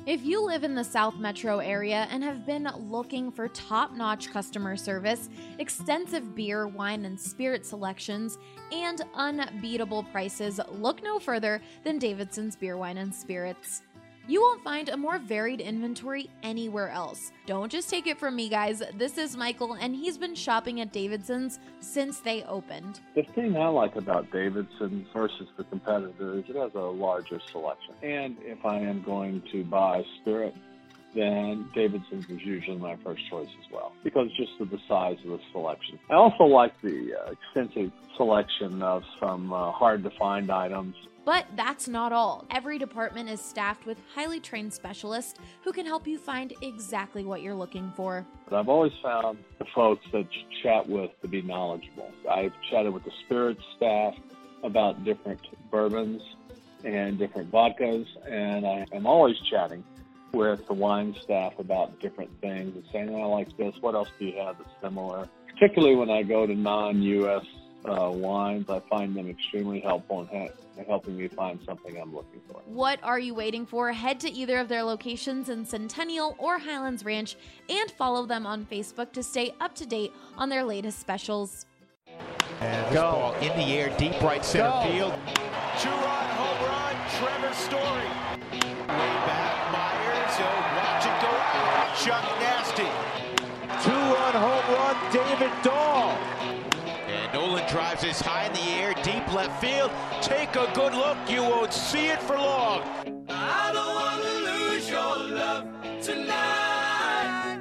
If you live in the South Metro area and have been looking for top-notch customer service, extensive beer, wine, and spirit selections, and unbeatable prices, look no further than Davidson's Beer, Wine, and Spirits. You won't find a more varied inventory anywhere else. Don't just take it from me, guys. This is Michael, and he's been shopping at Davidson's since they opened. The thing I like about Davidson's versus the competitor is it has a larger selection. And if I am going to buy spirit, then Davidson's is usually my first choice as well, because just of the size of the selection. I also like the extensive selection of some hard-to-find items. But that's not all. Every department is staffed with highly trained specialists who can help you find exactly what you're looking for. But I've always found the folks that you chat with to be knowledgeable. I've chatted with the spirits staff about different bourbons and different vodkas, and I am always chatting with the wine staff about different things and saying, I like this, what else do you have that's similar? Particularly when I go to non-U.S. wines, I find them extremely helpful in helping me find something I'm looking for. What are you waiting for? Head to either of their locations in Centennial or Highlands Ranch and follow them on Facebook to stay up to date on their latest specials. And this ball in the air, deep right center field. Two-run home run, Trevor Story. Way back, Myers, watch it go out. Chuck Nasty. Two-run home run, David Dahl. And Nolan drives this high in the air, deep left field. Take a good look, you won't see it for long. I don't want to lose your love tonight.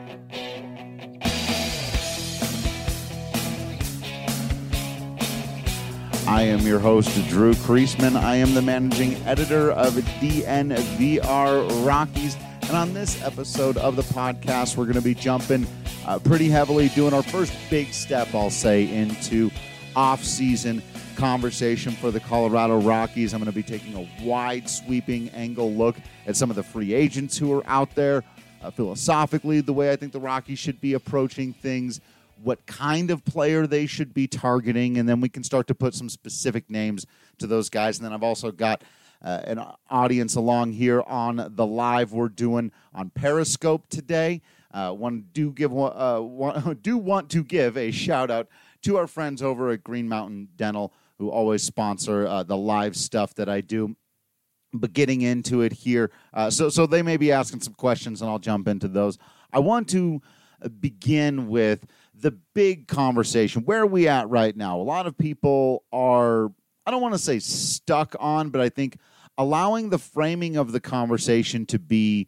I am your host, Drew Kreisman. I am the managing editor of DNVR Rockies. And on this episode of the podcast, we're going to be jumping pretty heavily, doing our first big step, I'll say, into off-season conversation for the Colorado Rockies. I'm going to be taking a wide, sweeping angle look at some of the free agents who are out there, philosophically, the way I think the Rockies should be approaching things, what kind of player they should be targeting, and then we can start to put some specific names to those guys. And then I've also got an audience along here on the live we're doing on Periscope today. Want to give a shout out to our friends over at Green Mountain Dental, who always sponsor the live stuff that I do. But getting into it here, so they may be asking some questions, and I'll jump into those. I want to begin with the big conversation. Where are we at right now? A lot of people are, I don't want to say stuck on, but I think allowing the framing of the conversation to be,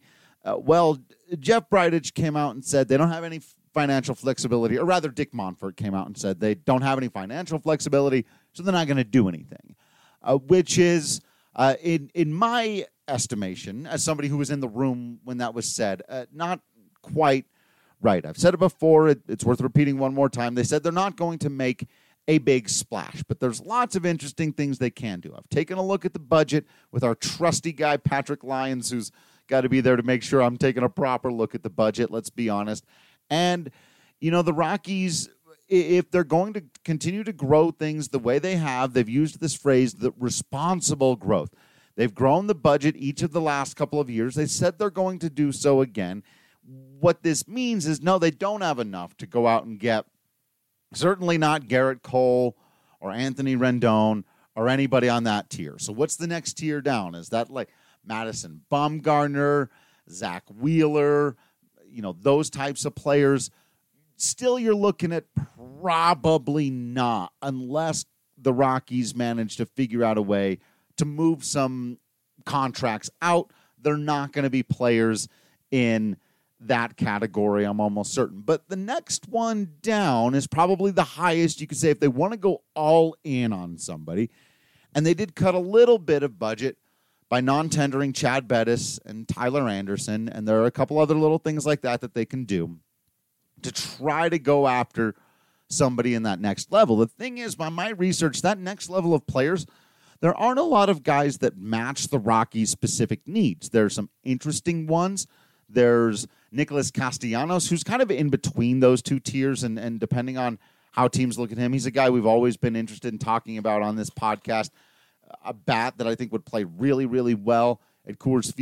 Jeff Bridich came out and said they don't have any financial flexibility, or rather Dick Monfort came out and said they don't have any financial flexibility, so they're not going to do anything, which is, in my estimation, as somebody who was in the room when that was said, not quite right. I've said it before. It's worth repeating one more time. They said they're not going to make a big splash, but there's lots of interesting things they can do. I've taken a look at the budget with our trusty guy, Patrick Lyons, who's got to be there to make sure I'm taking a proper look at the budget, let's be honest. And, the Rockies, if they're going to continue to grow things the way they have, they've used this phrase, the responsible growth. They've grown the budget each of the last couple of years. They said they're going to do so again. What this means is, no, they don't have enough to go out and get, certainly not Garrett Cole or Anthony Rendon or anybody on that tier. So what's the next tier down? Is that like Madison Bumgarner, Zach Wheeler, those types of players? Still, you're looking at probably not, unless the Rockies manage to figure out a way to move some contracts out. They're not going to be players in that category, I'm almost certain. But the next one down is probably the highest you could say if they want to go all in on somebody. And they did cut a little bit of budget by non-tendering Chad Bettis and Tyler Anderson, and there are a couple other little things like that they can do to try to go after somebody in that next level. The thing is, by my research, that next level of players, there aren't a lot of guys that match the Rockies' specific needs. There are some interesting ones. There's Nicholas Castellanos, who's kind of in between those two tiers, and depending on how teams look at him, he's a guy we've always been interested in talking about on this podcast. A bat that I think would play really, really well at Coors Field.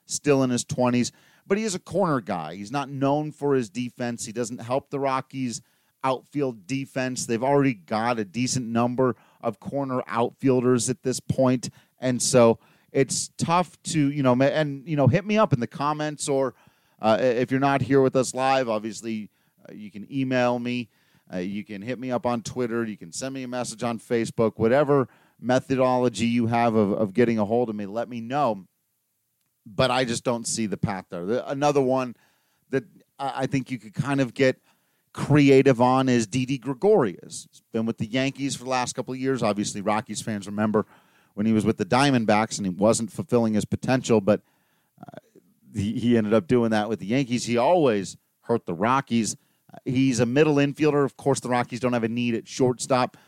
still in his 20s, but he is a corner guy. He's not known for his defense. He doesn't help the Rockies' outfield defense. They've already got a decent number of corner outfielders at this point, and so it's tough to, hit me up in the comments, or if you're not here with us live, obviously you can email me. You can hit me up on Twitter. You can send me a message on Facebook. Whatever methodology you have of getting a hold of me, let me know. But I just don't see the path there. Another one that I think you could kind of get creative on is Didi Gregorius. He's been with the Yankees for the last couple of years. Obviously, Rockies fans remember when he was with the Diamondbacks and he wasn't fulfilling his potential, but he ended up doing that with the Yankees. He always hurt the Rockies. He's a middle infielder. Of course, the Rockies don't have a need at shortstop.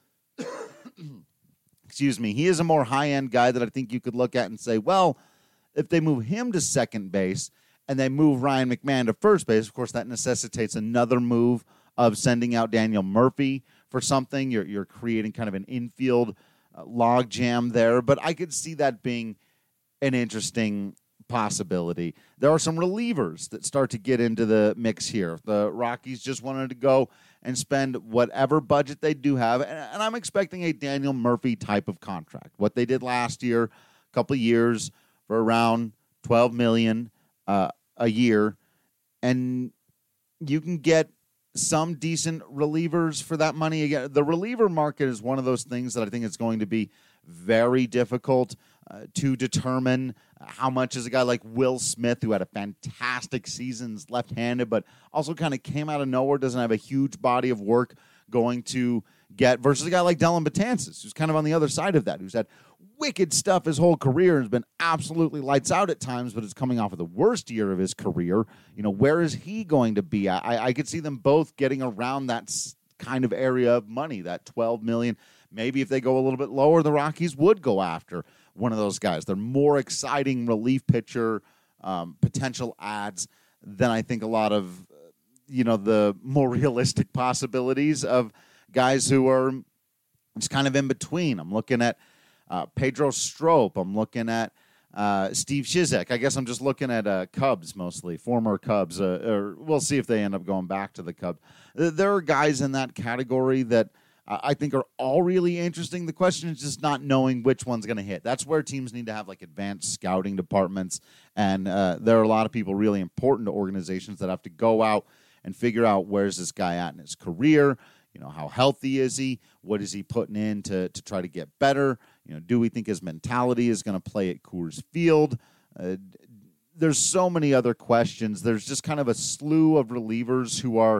Excuse me. He is a more high-end guy that I think you could look at and say, well, if they move him to second base and they move Ryan McMahon to first base, of course, that necessitates another move of sending out Daniel Murphy for something. You're creating kind of an infield log jam there. But I could see that being an interesting possibility. There are some relievers that start to get into the mix here. The Rockies just wanted to go and spend whatever budget they do have, and I'm expecting a Daniel Murphy type of contract. What they did last year, a couple of years, for around $12 million a year, and you can get some decent relievers for that money. Again, the reliever market is one of those things that I think is going to be very difficult to determine. How much is a guy like Will Smith, who had a fantastic season, left-handed, but also kind of came out of nowhere, doesn't have a huge body of work, going to get, versus a guy like Dellin Betances, who's kind of on the other side of that, who's had wicked stuff his whole career and has been absolutely lights out at times, but is coming off of the worst year of his career. Where is he going to be at? I could see them both getting around that kind of area of money, that $12 million. Maybe if they go a little bit lower, the Rockies would go after one of those guys. They're more exciting relief pitcher potential ads than I think a lot of, the more realistic possibilities of guys who are just kind of in between. I'm looking at Pedro Strop. I'm looking at Steve Cishek. I guess I'm just looking at Cubs mostly, former Cubs. Or we'll see if they end up going back to the Cubs. There are guys in that category that I think are all really interesting. The question is just not knowing which one's going to hit. That's where teams need to have advanced scouting departments, and there are a lot of people really important to organizations that have to go out and figure out where's this guy at in his career. How healthy is he? What is he putting in to try to get better? Do we think his mentality is going to play at Coors Field? There's so many other questions. There's just kind of a slew of relievers who are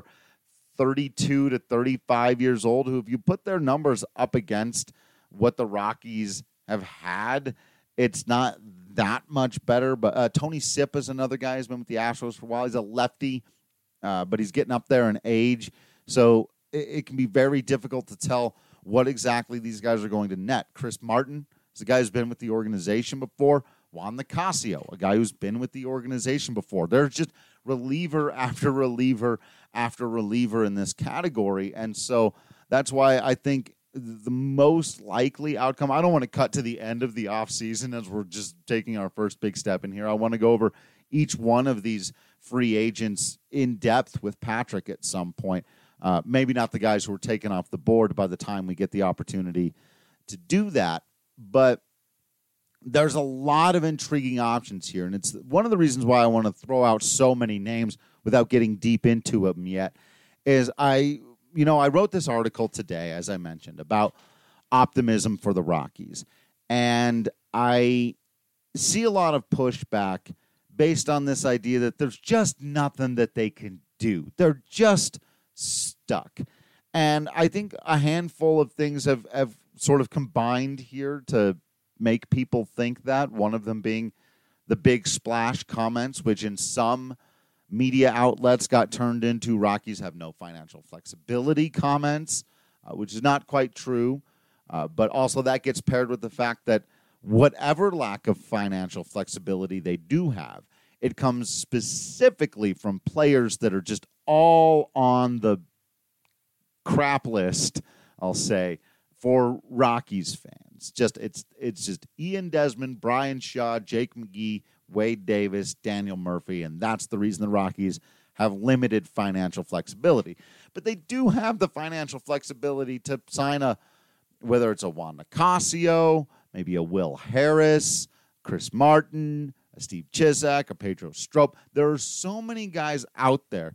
32 to 35 years old, who, if you put their numbers up against what the Rockies have had, it's not that much better. But Tony Sipp is another guy who's been with the Astros for a while. He's a lefty, but he's getting up there in age. So it can be very difficult to tell what exactly these guys are going to net. Chris Martin is a guy who's been with the organization before. Juan Nicasio, a guy who's been with the organization before. There's just reliever after reliever after reliever in this category. And so that's why I think the most likely outcome, I don't want to cut to the end of the offseason as we're just taking our first big step in here. I want to go over each one of these free agents in depth with Patrick at some point. Maybe not the guys who are taken off the board by the time we get the opportunity to do that, but there's a lot of intriguing options here, and it's one of the reasons why I want to throw out so many names without getting deep into them yet, is I wrote this article today, as I mentioned, about optimism for the Rockies, and I see a lot of pushback based on this idea that there's just nothing that they can do. They're just stuck. And I think a handful of things have sort of combined here to make people think that, one of them being the big splash comments, which in some media outlets got turned into Rockies have no financial flexibility comments, which is not quite true. But also that gets paired with the fact that whatever lack of financial flexibility they do have, it comes specifically from players that are just all on the crap list, I'll say, for Rockies fans. It's just Ian Desmond, Brian Shaw, Jake McGee, Wade Davis, Daniel Murphy, and that's the reason the Rockies have limited financial flexibility. But they do have the financial flexibility to sign whether it's a Juan Nicasio, maybe a Will Harris, Chris Martin, a Steve Chisak, a Pedro Strop. There are so many guys out there.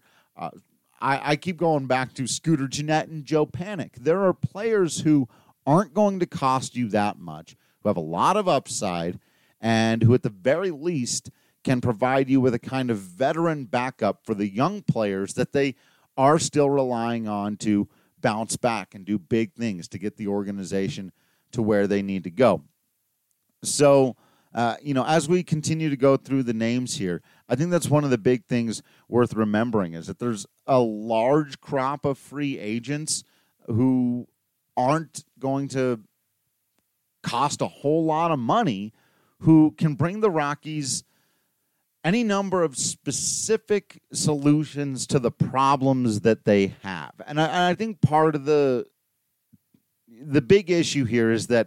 I keep going back to Scooter Gennett and Joe Panik. There are players who aren't going to cost you that much, who have a lot of upside, and who at the very least can provide you with a kind of veteran backup for the young players that they are still relying on to bounce back and do big things to get the organization to where they need to go. So, as we continue to go through the names here, I think that's one of the big things worth remembering is that there's a large crop of free agents who aren't going to cost a whole lot of money, who can bring the Rockies any number of specific solutions to the problems that they have. And I think part of the big issue here is that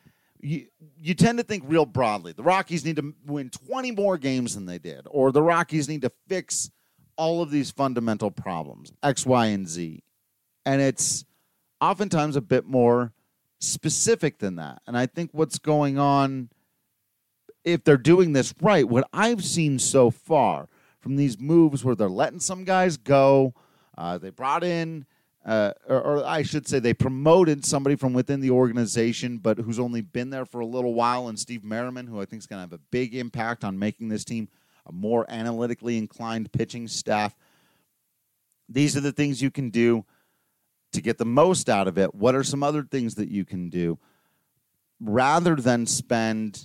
you tend to think real broadly. The Rockies need to win 20 more games than they did, or the Rockies need to fix all of these fundamental problems, X, Y, and Z. And it's oftentimes a bit more specific than that. And I think what's going on, if they're doing this right, what I've seen so far from these moves where they're letting some guys go, they brought in, or I should say they promoted somebody from within the organization, but who's only been there for a little while, and Steve Merriman, who I think is going to have a big impact on making this team a more analytically inclined pitching staff. These are the things you can do to get the most out of it. What are some other things that you can do rather than spend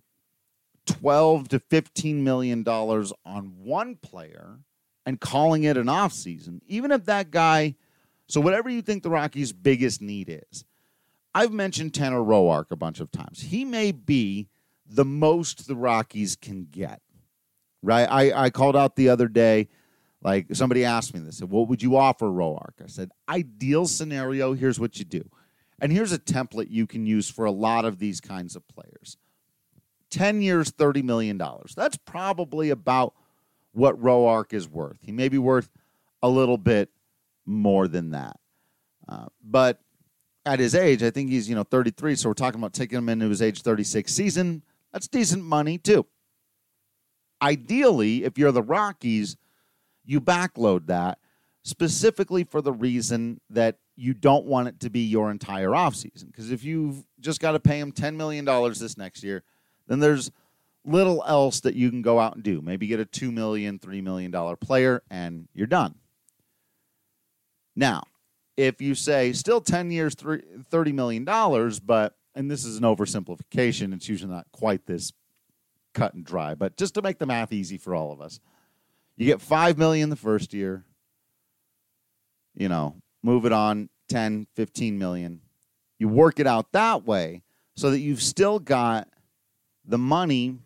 $12 to $15 million on one player and calling it an offseason, even if that guy, so whatever you think the Rockies' biggest need is. I've mentioned Tanner Roark a bunch of times. He may be the most the Rockies can get, right? I called out the other day, like somebody asked me this, said, what would you offer Roark? I said, ideal scenario, here's what you do. And here's a template you can use for a lot of these kinds of players. 10 years, $30 million. That's probably about what Roark is worth. He may be worth a little bit more than that. But at his age, I think he's 33, so we're talking about taking him into his age 36 season. That's decent money, too. Ideally, if you're the Rockies, you backload that specifically for the reason that you don't want it to be your entire offseason. Because if you've just got to pay him $10 million this next year, then there's little else that you can go out and do. Maybe get a $2 million, $3 million player, and you're done. Now, if you say still 10 years, $30 million, but, and this is an oversimplification, it's usually not quite this cut and dry, but just to make the math easy for all of us, you get $5 million the first year, move it on, 10, 15 million. You work it out that way so that you've still got the money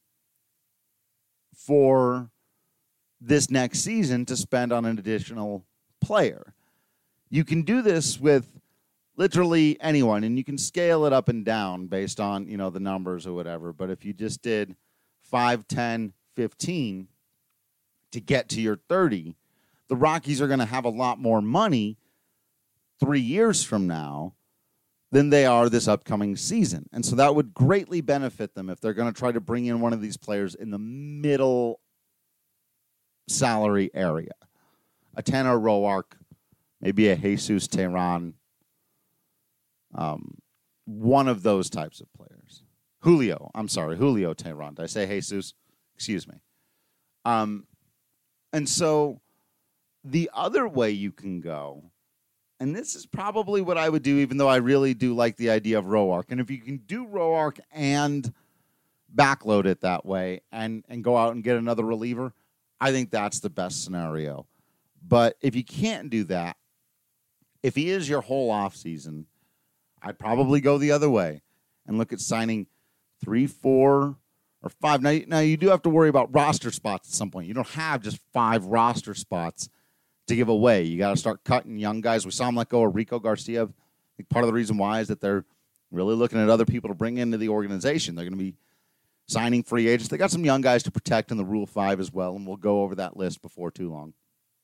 for this next season to spend on an additional player. You can do this with literally anyone, and you can scale it up and down based on, the numbers or whatever. But if you just did 5, 10, 15 to get to your 30, the Rockies are going to have a lot more money 3 years from now than they are this upcoming season. And so that would greatly benefit them if they're going to try to bring in one of these players in the middle salary area. A Tanner Roark, maybe a Jesus Teheran, one of those types of players. Julio Teheran. Did I say Jesus? Excuse me. And so the other way you can go, and this is probably what I would do, even though I really do like the idea of Roark. And if you can do Roark and backload it that way and go out and get another reliever, I think that's the best scenario. But if you can't do that, if he is your whole offseason, I'd probably go the other way and look at signing 3, 4, or 5. Now you do have to worry about roster spots at some point. You don't have just 5 roster spots to give away. You got to start cutting young guys. We saw him let go of Rico Garcia. I think part of the reason why is that they're really looking at other people to bring into the organization. They're going to be signing free agents. They got some young guys to protect in the Rule 5 as well, and we'll go over that list before too long.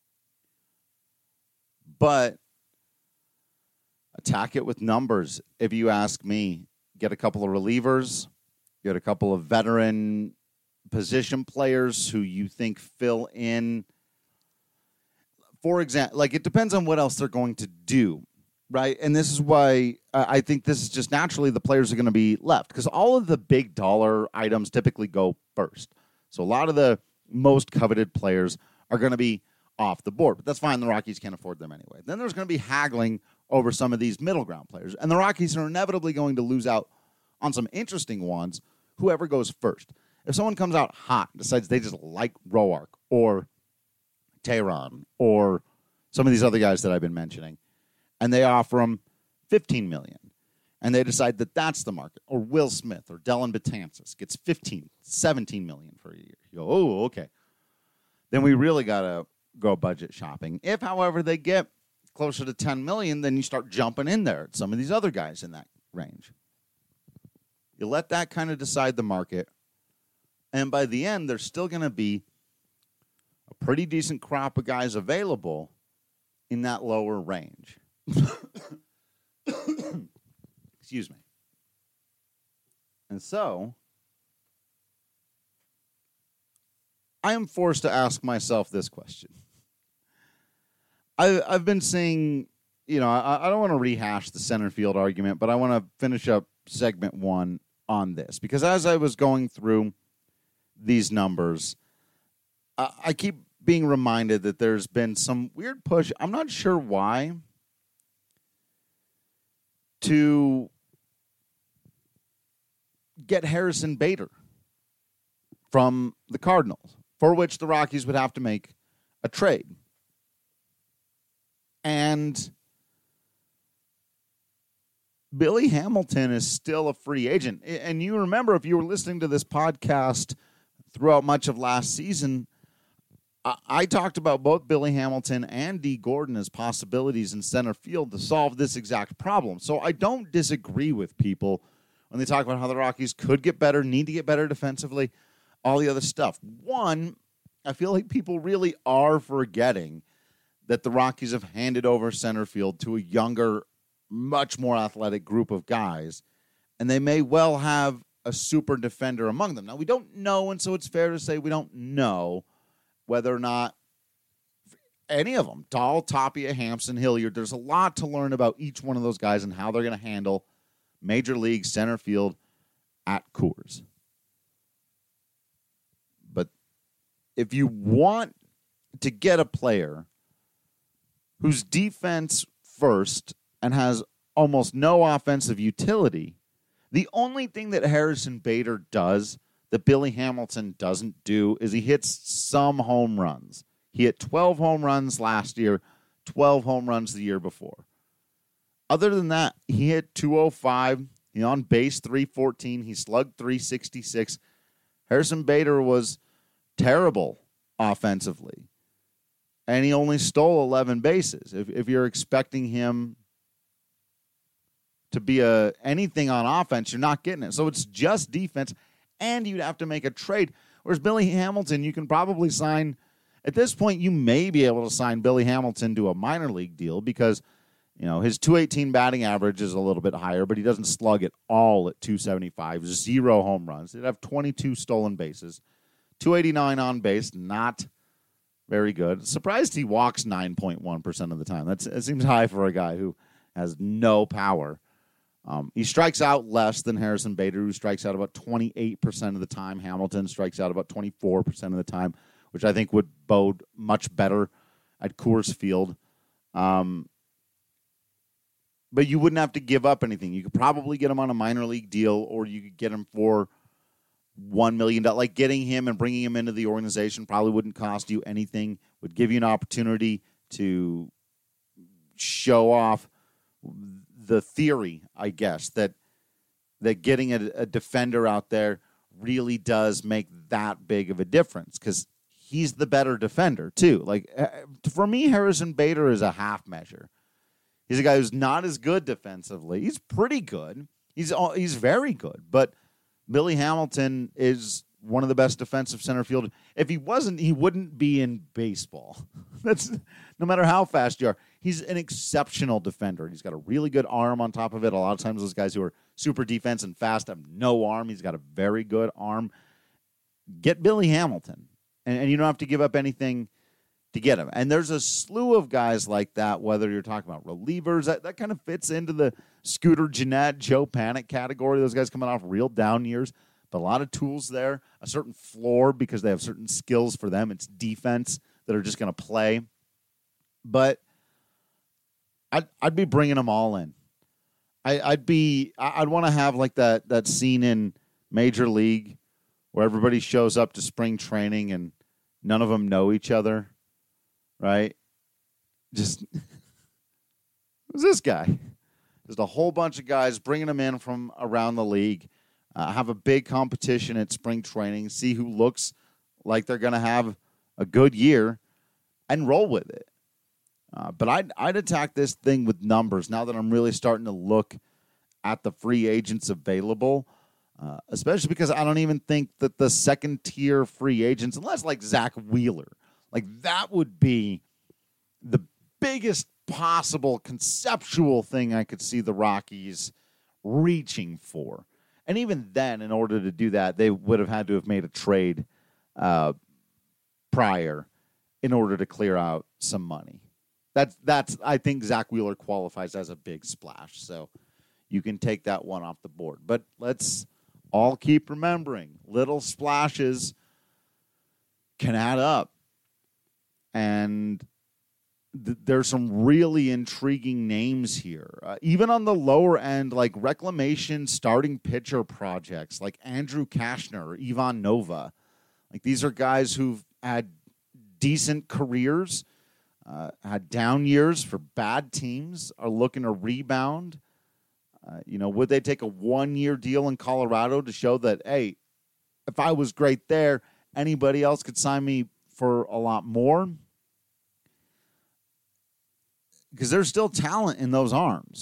But attack it with numbers, if you ask me. Get a couple of relievers, get a couple of veteran position players who you think fill in. For example, like, it depends on what else they're going to do, right? And this is why I think this is just naturally the players are going to be left, because all of the big dollar items typically go first. So a lot of the most coveted players are going to be off the board, but that's fine. The Rockies can't afford them anyway. Then there's going to be haggling over some of these middle ground players, and the Rockies are inevitably going to lose out on some interesting ones, whoever goes first. If someone comes out hot and decides they just like Roark or Tehran or some of these other guys that I've been mentioning, and they offer them $15 million, and they decide that that's the market, or Will Smith or Dellin Betances gets $17 million for a year. You go, oh, okay. Then we really got to go budget shopping. If, however, they get closer to $10 million, then you start jumping in there at some of these other guys in that range. You let that kind of decide the market, and by the end, there's still going to be a pretty decent crop of guys available in that lower range. Excuse me. And so, I am forced to ask myself this question. I've been saying, you know, I don't want to rehash the center field argument, but I want to finish up segment 1 on this, because as I was going through these numbers, I keep being reminded that there's been some weird push, I'm not sure why, to get Harrison Bader from the Cardinals, for which the Rockies would have to make a trade. And Billy Hamilton is still a free agent. And you remember, if you were listening to this podcast throughout much of last season, I talked about both Billy Hamilton and Dee Gordon as possibilities in center field to solve this exact problem. So I don't disagree with people when they talk about how the Rockies could get better, need to get better defensively, all the other stuff. One, I feel like people really are forgetting that the Rockies have handed over center field to a younger, much more athletic group of guys, and they may well have a super defender among them. Now, we don't know, and so it's fair to say we don't know whether or not any of them, Dahl, Tapia, Hampson, Hilliard, there's a lot to learn about each one of those guys and how they're going to handle Major League center field at Coors. But if you want to get a player whose defense first and has almost no offensive utility, the only thing that Harrison Bader does that Billy Hamilton doesn't do is he hits some home runs. He hit 12 home runs last year, 12 home runs the year before. Other than that, he hit 205. He on base 314. He slugged 366. Harrison Bader was terrible offensively, and he only stole 11 bases. If you're expecting him to be anything on offense, you're not getting it. So it's just defense, and you'd have to make a trade. Whereas Billy Hamilton, you can probably sign. At this point, you may be able to sign Billy Hamilton to a minor league deal because, you know, his .218 batting average is a little bit higher, but he doesn't slug at all at .275. 0 home runs. He'd have 22 stolen bases. .289 on base, not very good. Surprised he walks 9.1% of the time. It seems high for a guy who has no power. He strikes out less than Harrison Bader, who strikes out about 28% of the time. Hamilton strikes out about 24% of the time, which I think would bode much better at Coors Field. But you wouldn't have to give up anything. You could probably get him on a minor league deal, or you could get him for $1 million. Like, getting him and bringing him into the organization probably wouldn't cost you anything. Would give you an opportunity to show off the theory, I guess, that getting a defender out there really does make that big of a difference, because he's the better defender too. Like, for me, Harrison Bader is a half measure. He's a guy who's not as good defensively. He's pretty good. He's very good, but Billy Hamilton is one of the best defensive center field. If he wasn't, he wouldn't be in baseball. That's no matter how fast you are. He's an exceptional defender. He's got a really good arm on top of it. A lot of times those guys who are super defense and fast have no arm. He's got a very good arm. Get Billy Hamilton, and you don't have to give up anything to get him. And there's a slew of guys like that, whether you're talking about relievers. That kind of fits into the Scooter Gennett, Joe Panic category. Those guys coming off real down years. But a lot of tools there, a certain floor because they have certain skills for them. It's defense that are just going to play. But I'd be bringing them all in. I'd want to have like that scene in Major League where everybody shows up to spring training and none of them know each other, right? Just who's this guy? Just a whole bunch of guys bringing them in from around the league. Have a big competition at spring training, see who looks like they're going to have a good year, and roll with it. But I'd attack this thing with numbers now that I'm really starting to look at the free agents available, especially because I don't even think that the second-tier free agents, unless like Zach Wheeler, like that would be the biggest possible conceptual thing I could see the Rockies reaching for. And even then, in order to do that, they would have had to have made a trade prior in order to clear out some money. That's I think Zach Wheeler qualifies as a big splash. So you can take that one off the board. But let's all keep remembering, little splashes can add up. And there's some really intriguing names here. Even on the lower end, like reclamation starting pitcher projects like Andrew Kashner or Ivan Nova. Like these are guys who've had decent careers, had down years for bad teams, are looking to rebound. Would they take a 1-year deal in Colorado to show that, hey, if I was great there, anybody else could sign me for a lot more? Because there's still talent in those arms.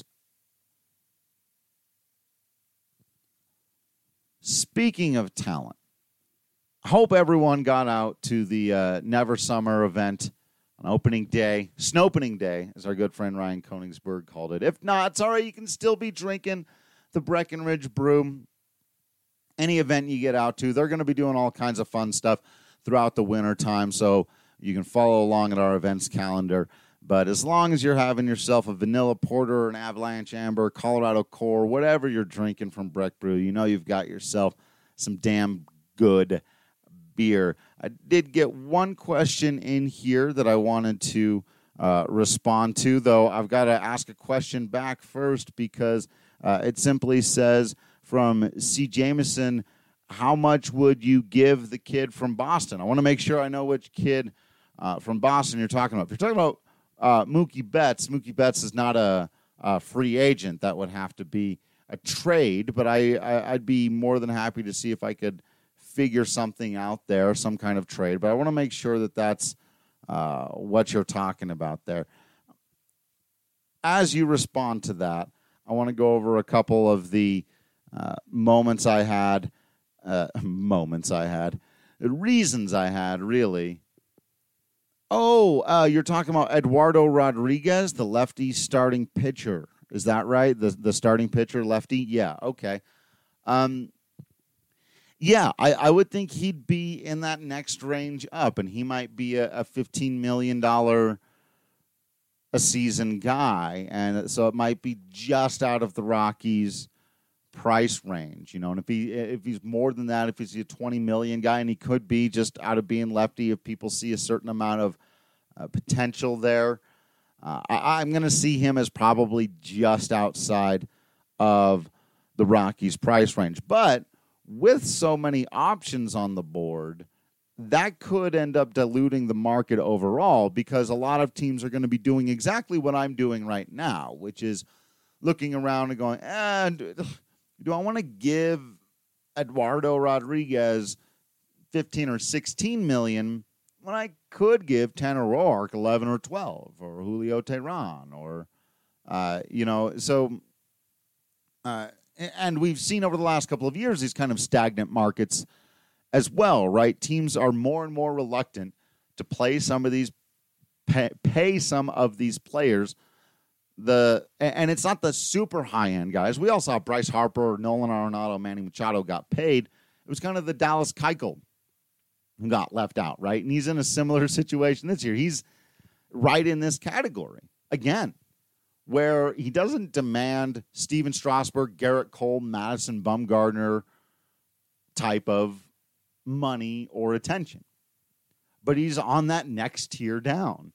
Speaking of talent, I hope everyone got out to the Never Summer event on opening day, Snopening Day, as our good friend Ryan Koenigsberg called it. If not, it's all right. You can still be drinking the Breckenridge Brew. Any event you get out to, they're going to be doing all kinds of fun stuff throughout the winter time, so you can follow along at our events calendar. But as long as you're having yourself a vanilla porter, an Avalanche Amber, Colorado Core, whatever you're drinking from Breck Brew, you know you've got yourself some damn good beer. I did get one question in here that I wanted to respond to, though I've got to ask a question back first because it simply says from C. Jameson, how much would you give the kid from Boston? I want to make sure I know which kid from Boston you're talking about. If you're talking about Mookie Betts is not a free agent. That would have to be a trade, but I'd be more than happy to see if I could figure something out there, some kind of trade. But I want to make sure that that's what you're talking about there. As you respond to that, I want to go over a couple of the reasons I had, really. Oh, you're talking about Eduardo Rodriguez, the lefty starting pitcher. Is that right? The starting pitcher, lefty? Yeah, okay. Yeah, I would think he'd be in that next range up, and he might be a $15 million a season guy, and so it might be just out of the Rockies' price range, and if he's more than that, if he's a $20 million guy, and he could be just out of being lefty, if people see a certain amount of potential there, I'm going to see him as probably just outside of the Rockies' price range. But with so many options on the board, that could end up diluting the market overall because a lot of teams are going to be doing exactly what I'm doing right now, which is looking around and going, do I want to give Eduardo Rodriguez 15 or 16 million when I could give Tanner Roark 11 or 12 or Julio Teheran or, And we've seen over the last couple of years these kind of stagnant markets as well, right? Teams are more and more reluctant to play some of these, pay some of these players. And it's not the super high-end guys. We all saw Bryce Harper, Nolan Arenado, Manny Machado got paid. It was kind of the Dallas Keuchel who got left out, right? And he's in a similar situation this year. He's right in this category, again, where he doesn't demand Steven Strasburg, Garrett Cole, Madison Bumgarner type of money or attention. But he's on that next tier down.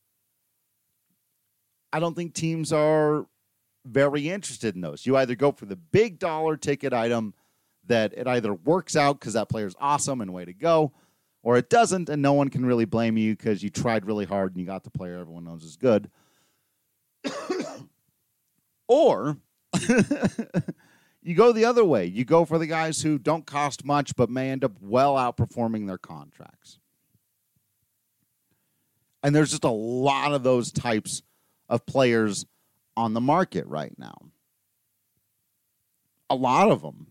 I don't think teams are very interested in those. You either go for the big dollar ticket item that it either works out because that player's awesome and way to go, or it doesn't and no one can really blame you because you tried really hard and you got the player everyone knows is good. Or you go the other way. You go for the guys who don't cost much but may end up well outperforming their contracts. And there's just a lot of those types of players on the market right now. A lot of them.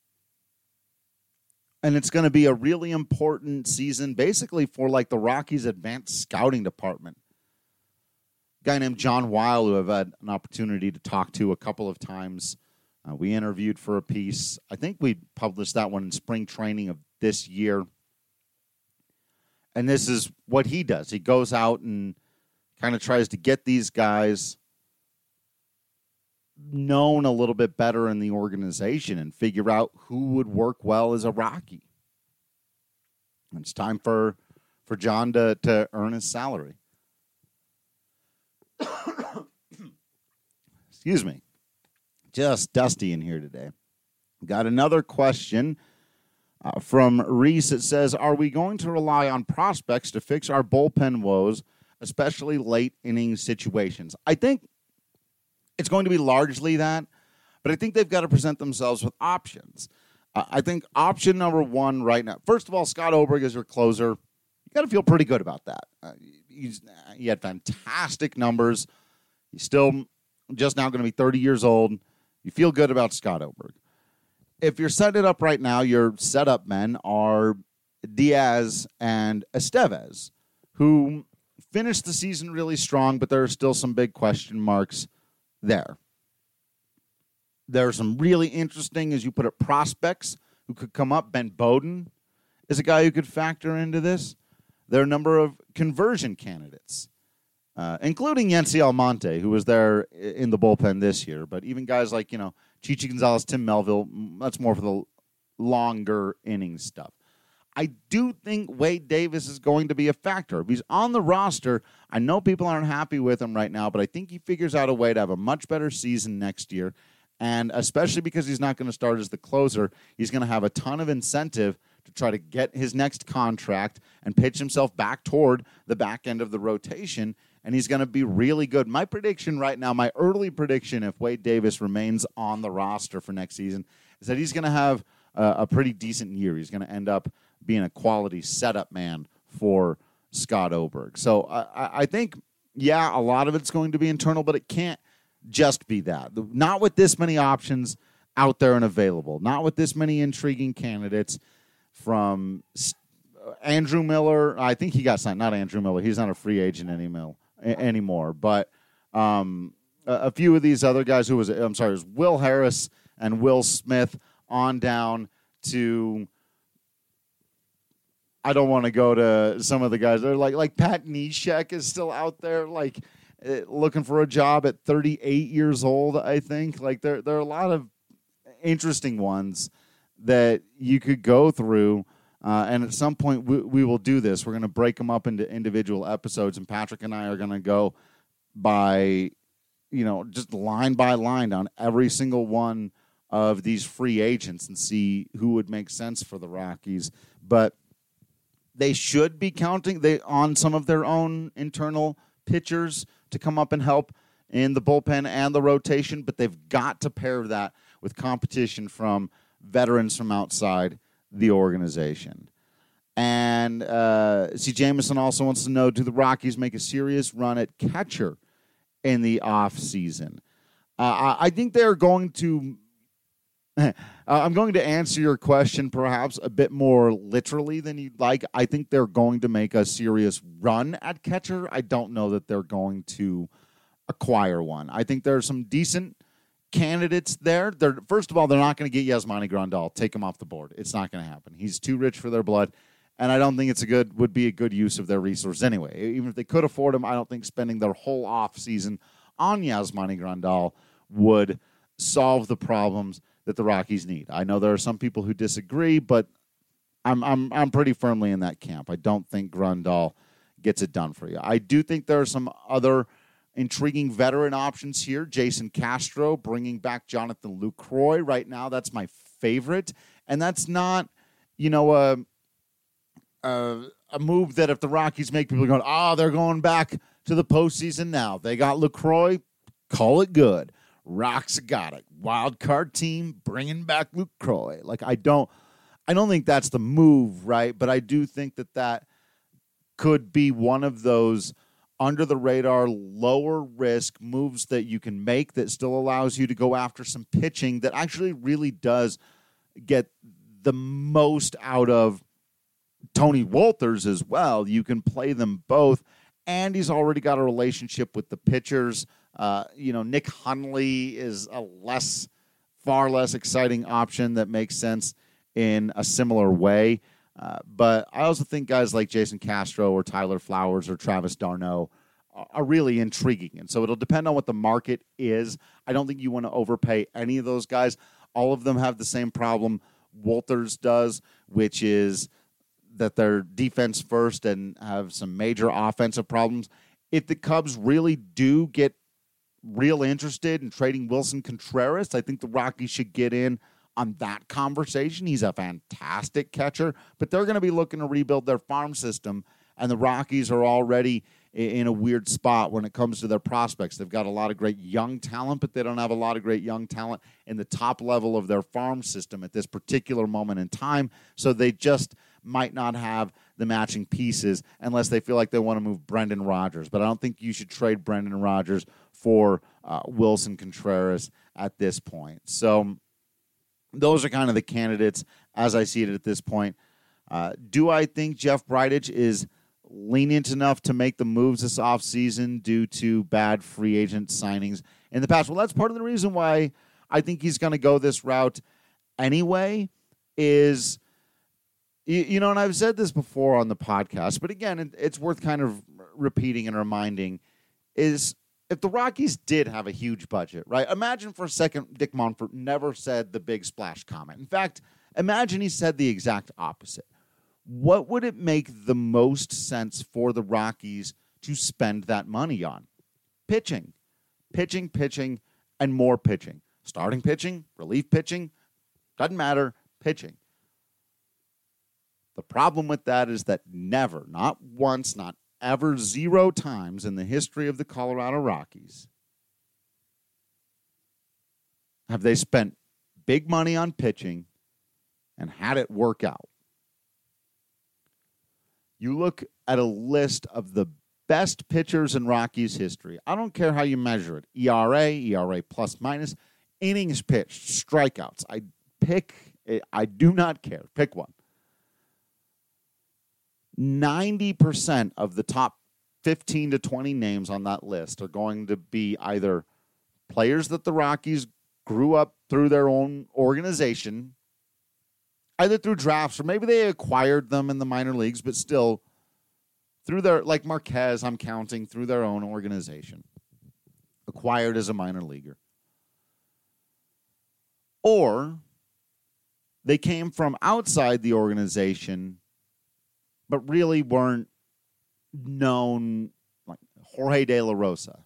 And it's going to be a really important season basically for like the Rockies' advanced scouting department. A guy named John Weil, who I've had an opportunity to talk to a couple of times. We interviewed for a piece. I think we published that one in spring training of this year. And this is what he does. He goes out and kind of tries to get these guys known a little bit better in the organization and figure out who would work well as a Rocky. And it's time for John to earn his salary. Excuse me. Just dusty in here today. Got another question from Reese. It says, are we going to rely on prospects to fix our bullpen woes, especially late inning situations? I think it's going to be largely that, but I think they've got to present themselves with options. I think option number one right now, first of all, Scott Oberg is your closer. You got to feel pretty good about that. He had fantastic numbers. He's still just now going to be 30 years old. You feel good about Scott Oberg. If you're setting it up right now, your setup men are Diaz and Estevez, who finished the season really strong, but there are still some big question marks there. There are some really interesting, as you put it, prospects who could come up. Ben Bowden is a guy who could factor into this. There are a number of conversion candidates, including Yency Almonte, who was there in the bullpen this year. But even guys like, Chichi Gonzalez, Tim Melville, that's more for the longer inning stuff. I do think Wade Davis is going to be a factor. If he's on the roster, I know people aren't happy with him right now, but I think he figures out a way to have a much better season next year. And especially because he's not going to start as the closer, he's going to have a ton of incentive to try to get his next contract and pitch himself back toward the back end of the rotation. And he's going to be really good. My prediction right now, my early prediction, if Wade Davis remains on the roster for next season, is that he's going to have a pretty decent year. He's going to end up being a quality setup man for Scott Oberg. So I think, yeah, a lot of it's going to be internal, but it can't just be that. Not with this many options out there and available. Not with this many intriguing candidates from Andrew Miller. I think he got signed. Not Andrew Miller. He's not a free agent anymore. But a few of these other guys it was Will Harris and Will Smith on down to, I don't want to go to some of the guys. They're like Pat Neshek is still out there, looking for a job at 38 years old, I think. There are a lot of interesting ones that you could go through, and at some point we will do this. We're going to break them up into individual episodes, and Patrick and I are going to go by, just line by line on every single one of these free agents and see who would make sense for the Rockies. But they should be counting on some of their own internal pitchers to come up and help in the bullpen and the rotation, but they've got to pair that with competition from veterans from outside the organization. And C. Jameson also wants to know, do the Rockies make a serious run at catcher in the offseason? I think they're going to I'm going to answer your question perhaps a bit more literally than you'd like. I think they're going to make a serious run at catcher. I don't know that they're going to acquire one. I think there are some decent candidates there. First of all, they're not going to get Yasmani Grandal. Take him off the board. It's not going to happen. He's too rich for their blood, and I don't think would be a good use of their resource anyway. Even if they could afford him, I don't think spending their whole off season on Yasmani Grandal would solve the problems that the Rockies need. I know there are some people who disagree, but I'm pretty firmly in that camp. I don't think Grandal gets it done for you. I do think there are some other intriguing veteran options here. Jason Castro, bringing back Jonathan Lucroy. Right now, that's my favorite. And that's not, a move that if the Rockies make, people are going, they're going back to the postseason now. They got Lucroy. Call it good. Rocks got it. Wild card team bringing back Lucroy. I don't think that's the move, right? But I do think that could be one of those under the radar, lower risk moves that you can make that still allows you to go after some pitching that actually really does get the most out of Tony Wolters as well. You can play them both, and he's already got a relationship with the pitchers. Nick Hundley is a far less exciting option that makes sense in a similar way. But I also think guys like Jason Castro or Tyler Flowers or Travis d'Arnaud are really intriguing. And so it'll depend on what the market is. I don't think you want to overpay any of those guys. All of them have the same problem Wolters does, which is that they're defense first and have some major offensive problems. If the Cubs really do get real interested in trading Wilson Contreras, I think the Rockies should get in on that conversation. He's a fantastic catcher, but they're going to be looking to rebuild their farm system, and the Rockies are already in a weird spot when it comes to their prospects. They've got a lot of great young talent, but they don't have a lot of great young talent in the top level of their farm system at this particular moment in time, so they just might not have the matching pieces unless they feel like they want to move Brendan Rodgers. But I don't think you should trade Brendan Rodgers for Wilson Contreras at this point. So those are kind of the candidates as I see it at this point. Do I think Jeff Bridich is lenient enough to make the moves this offseason due to bad free agent signings in the past? Well, that's part of the reason why I think he's going to go this route anyway is, and I've said this before on the podcast, but again, it's worth kind of repeating and reminding, is if the Rockies did have a huge budget, right? Imagine for a second Dick Monfort never said the big splash comment. In fact, imagine he said the exact opposite. What would it make the most sense for the Rockies to spend that money on? Pitching, and more pitching. Starting pitching, relief pitching, doesn't matter, pitching. The problem with that is that never, not once, not ever, 0 times in the history of the Colorado Rockies have they spent big money on pitching and had it work out. You look at a list of the best pitchers in Rockies history. I don't care how you measure it. ERA plus minus, innings pitched, strikeouts. I do not care. Pick one. 90% of the top 15 to 20 names on that list are going to be either players that the Rockies grew up through their own organization, either through drafts or maybe they acquired them in the minor leagues, but still through their, like Marquez, I'm counting, through their own organization, acquired as a minor leaguer. Or they came from outside the organization but really weren't known, like Jorge De La Rosa.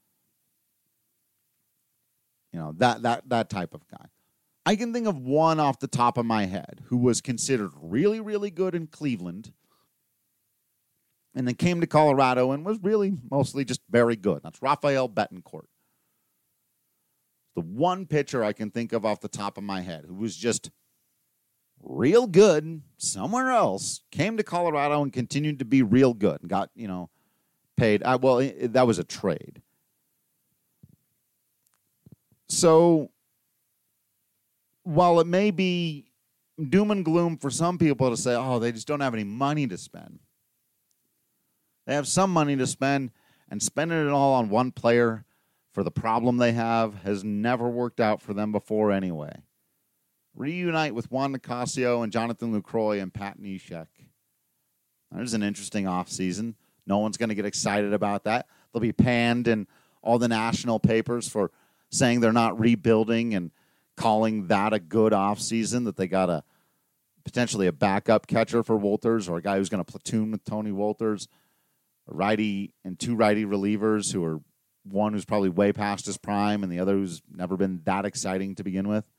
That type of guy. I can think of one off the top of my head who was considered really, really good in Cleveland and then came to Colorado and was really mostly just very good. That's Rafael Betancourt. The one pitcher I can think of off the top of my head who was just real good somewhere else, came to Colorado and continued to be real good and got, paid. That was a trade. So while it may be doom and gloom for some people to say, oh, they just don't have any money to spend, they have some money to spend, and spending it all on one player for the problem they have has never worked out for them before anyway. Reunite with Juan Nicasio and Jonathan Lucroy and Pat Neshek. There's an interesting offseason. No one's going to get excited about that. They'll be panned in all the national papers for saying they're not rebuilding and calling that a good offseason, that they got potentially a backup catcher for Wolters or a guy who's going to platoon with Tony Wolters, a righty and two righty relievers who are one who's probably way past his prime and the other who's never been that exciting to begin with.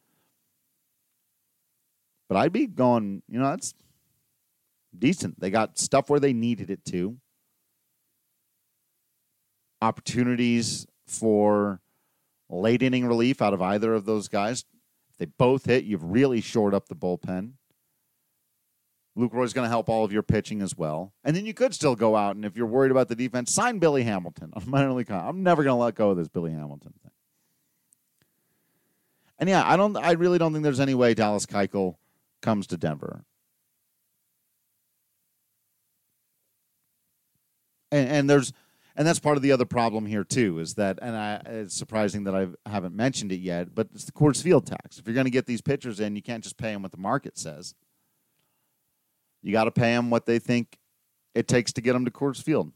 But I'd be going, that's decent. They got stuff where they needed it to. Opportunities for late inning relief out of either of those guys. If they both hit, you've really shored up the bullpen. Lucroy's going to help all of your pitching as well. And then you could still go out, and if you're worried about the defense, sign Billy Hamilton. I'm never going to let go of this Billy Hamilton thing. And yeah, I really don't think there's any way Dallas Keuchel comes to Denver. And that's part of the other problem here too, is that, it's surprising that I haven't mentioned it yet, but it's the Coors Field tax. If you're going to get these pitchers in, you can't just pay them what the market says. You got to pay them what they think it takes to get them to Coors Field.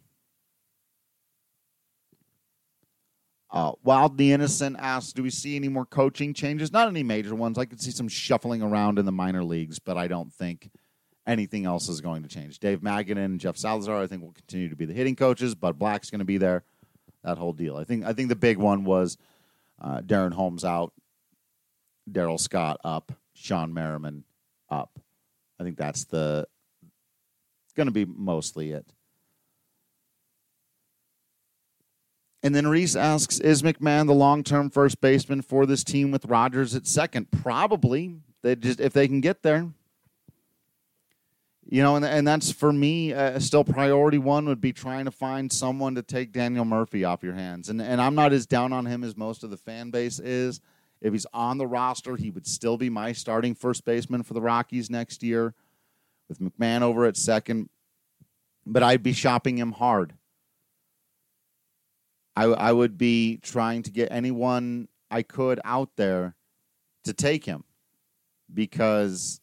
Wild the Innocent asks, do we see any more coaching changes? Not any major ones. I could see some shuffling around in the minor leagues, but I don't think anything else is going to change. Dave Magadan and Jeff Salazar, I think, will continue to be the hitting coaches. Bud Black's going to be there. That whole deal. I think the big one was Darren Holmes out, Daryl Scott up, Sean Merriman up. I think that's going to be mostly it. And then Reese asks, is McMahon the long-term first baseman for this team with Rodgers at second? Probably. If they can get there. And that's, for me, still priority one would be trying to find someone to take Daniel Murphy off your hands. And I'm not as down on him as most of the fan base is. If he's on the roster, he would still be my starting first baseman for the Rockies next year with McMahon over at second. But I'd be shopping him hard. I would be trying to get anyone I could out there to take him, because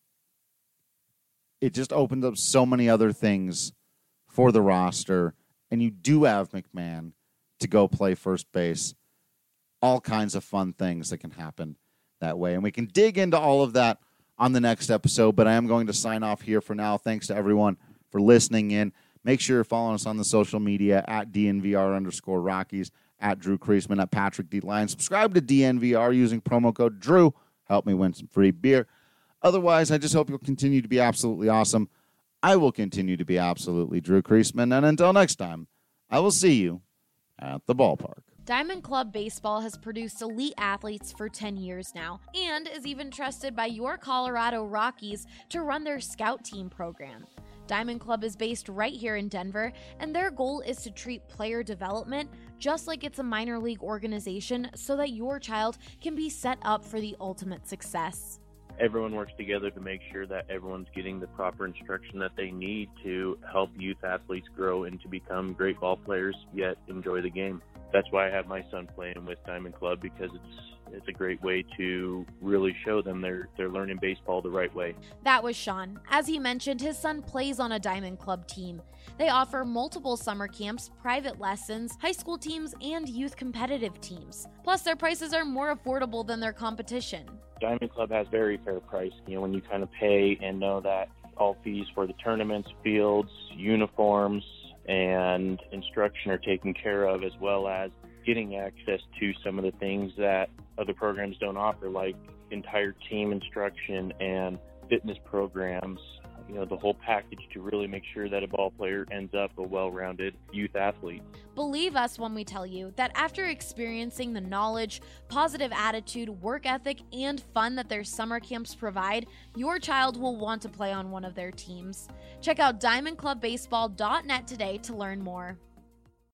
it just opened up so many other things for the roster. And you do have McMahon to go play first base. All kinds of fun things that can happen that way. And we can dig into all of that on the next episode, but I am going to sign off here for now. Thanks to everyone for listening in. Make sure you're following us on the social media at DNVR_Rockies, at Drew Creasman, at Patrick D. Lyon. Subscribe to DNVR using promo code Drew. Help me win some free beer. Otherwise, I just hope you'll continue to be absolutely awesome. I will continue to be absolutely Drew Creasman. And until next time, I will see you at the ballpark. Diamond Club Baseball has produced elite athletes for 10 years now and is even trusted by your Colorado Rockies to run their scout team program. Diamond Club is based right here in Denver, and their goal is to treat player development just like it's a minor league organization so that your child can be set up for the ultimate success. Everyone works together to make sure that everyone's getting the proper instruction that they need to help youth athletes grow and to become great ball players, yet enjoy the game. That's why I have my son playing with Diamond Club, because it's a great way to really show them they're learning baseball the right way. That was Sean. As he mentioned, his son plays on a Diamond Club team. They offer multiple summer camps, private lessons, high school teams, and youth competitive teams. Plus, their prices are more affordable than their competition. Diamond Club has very fair price. When you kind of pay and know that all fees for the tournaments, fields, uniforms, and instruction are taken care of, as well as getting access to some of the things that other programs don't offer, like entire team instruction and fitness programs, the whole package to really make sure that a ball player ends up a well-rounded youth athlete. Believe us when we tell you that after experiencing the knowledge, positive attitude, work ethic, and fun that their summer camps provide, your child will want to play on one of their teams. Check out diamondclubbaseball.net today to learn more.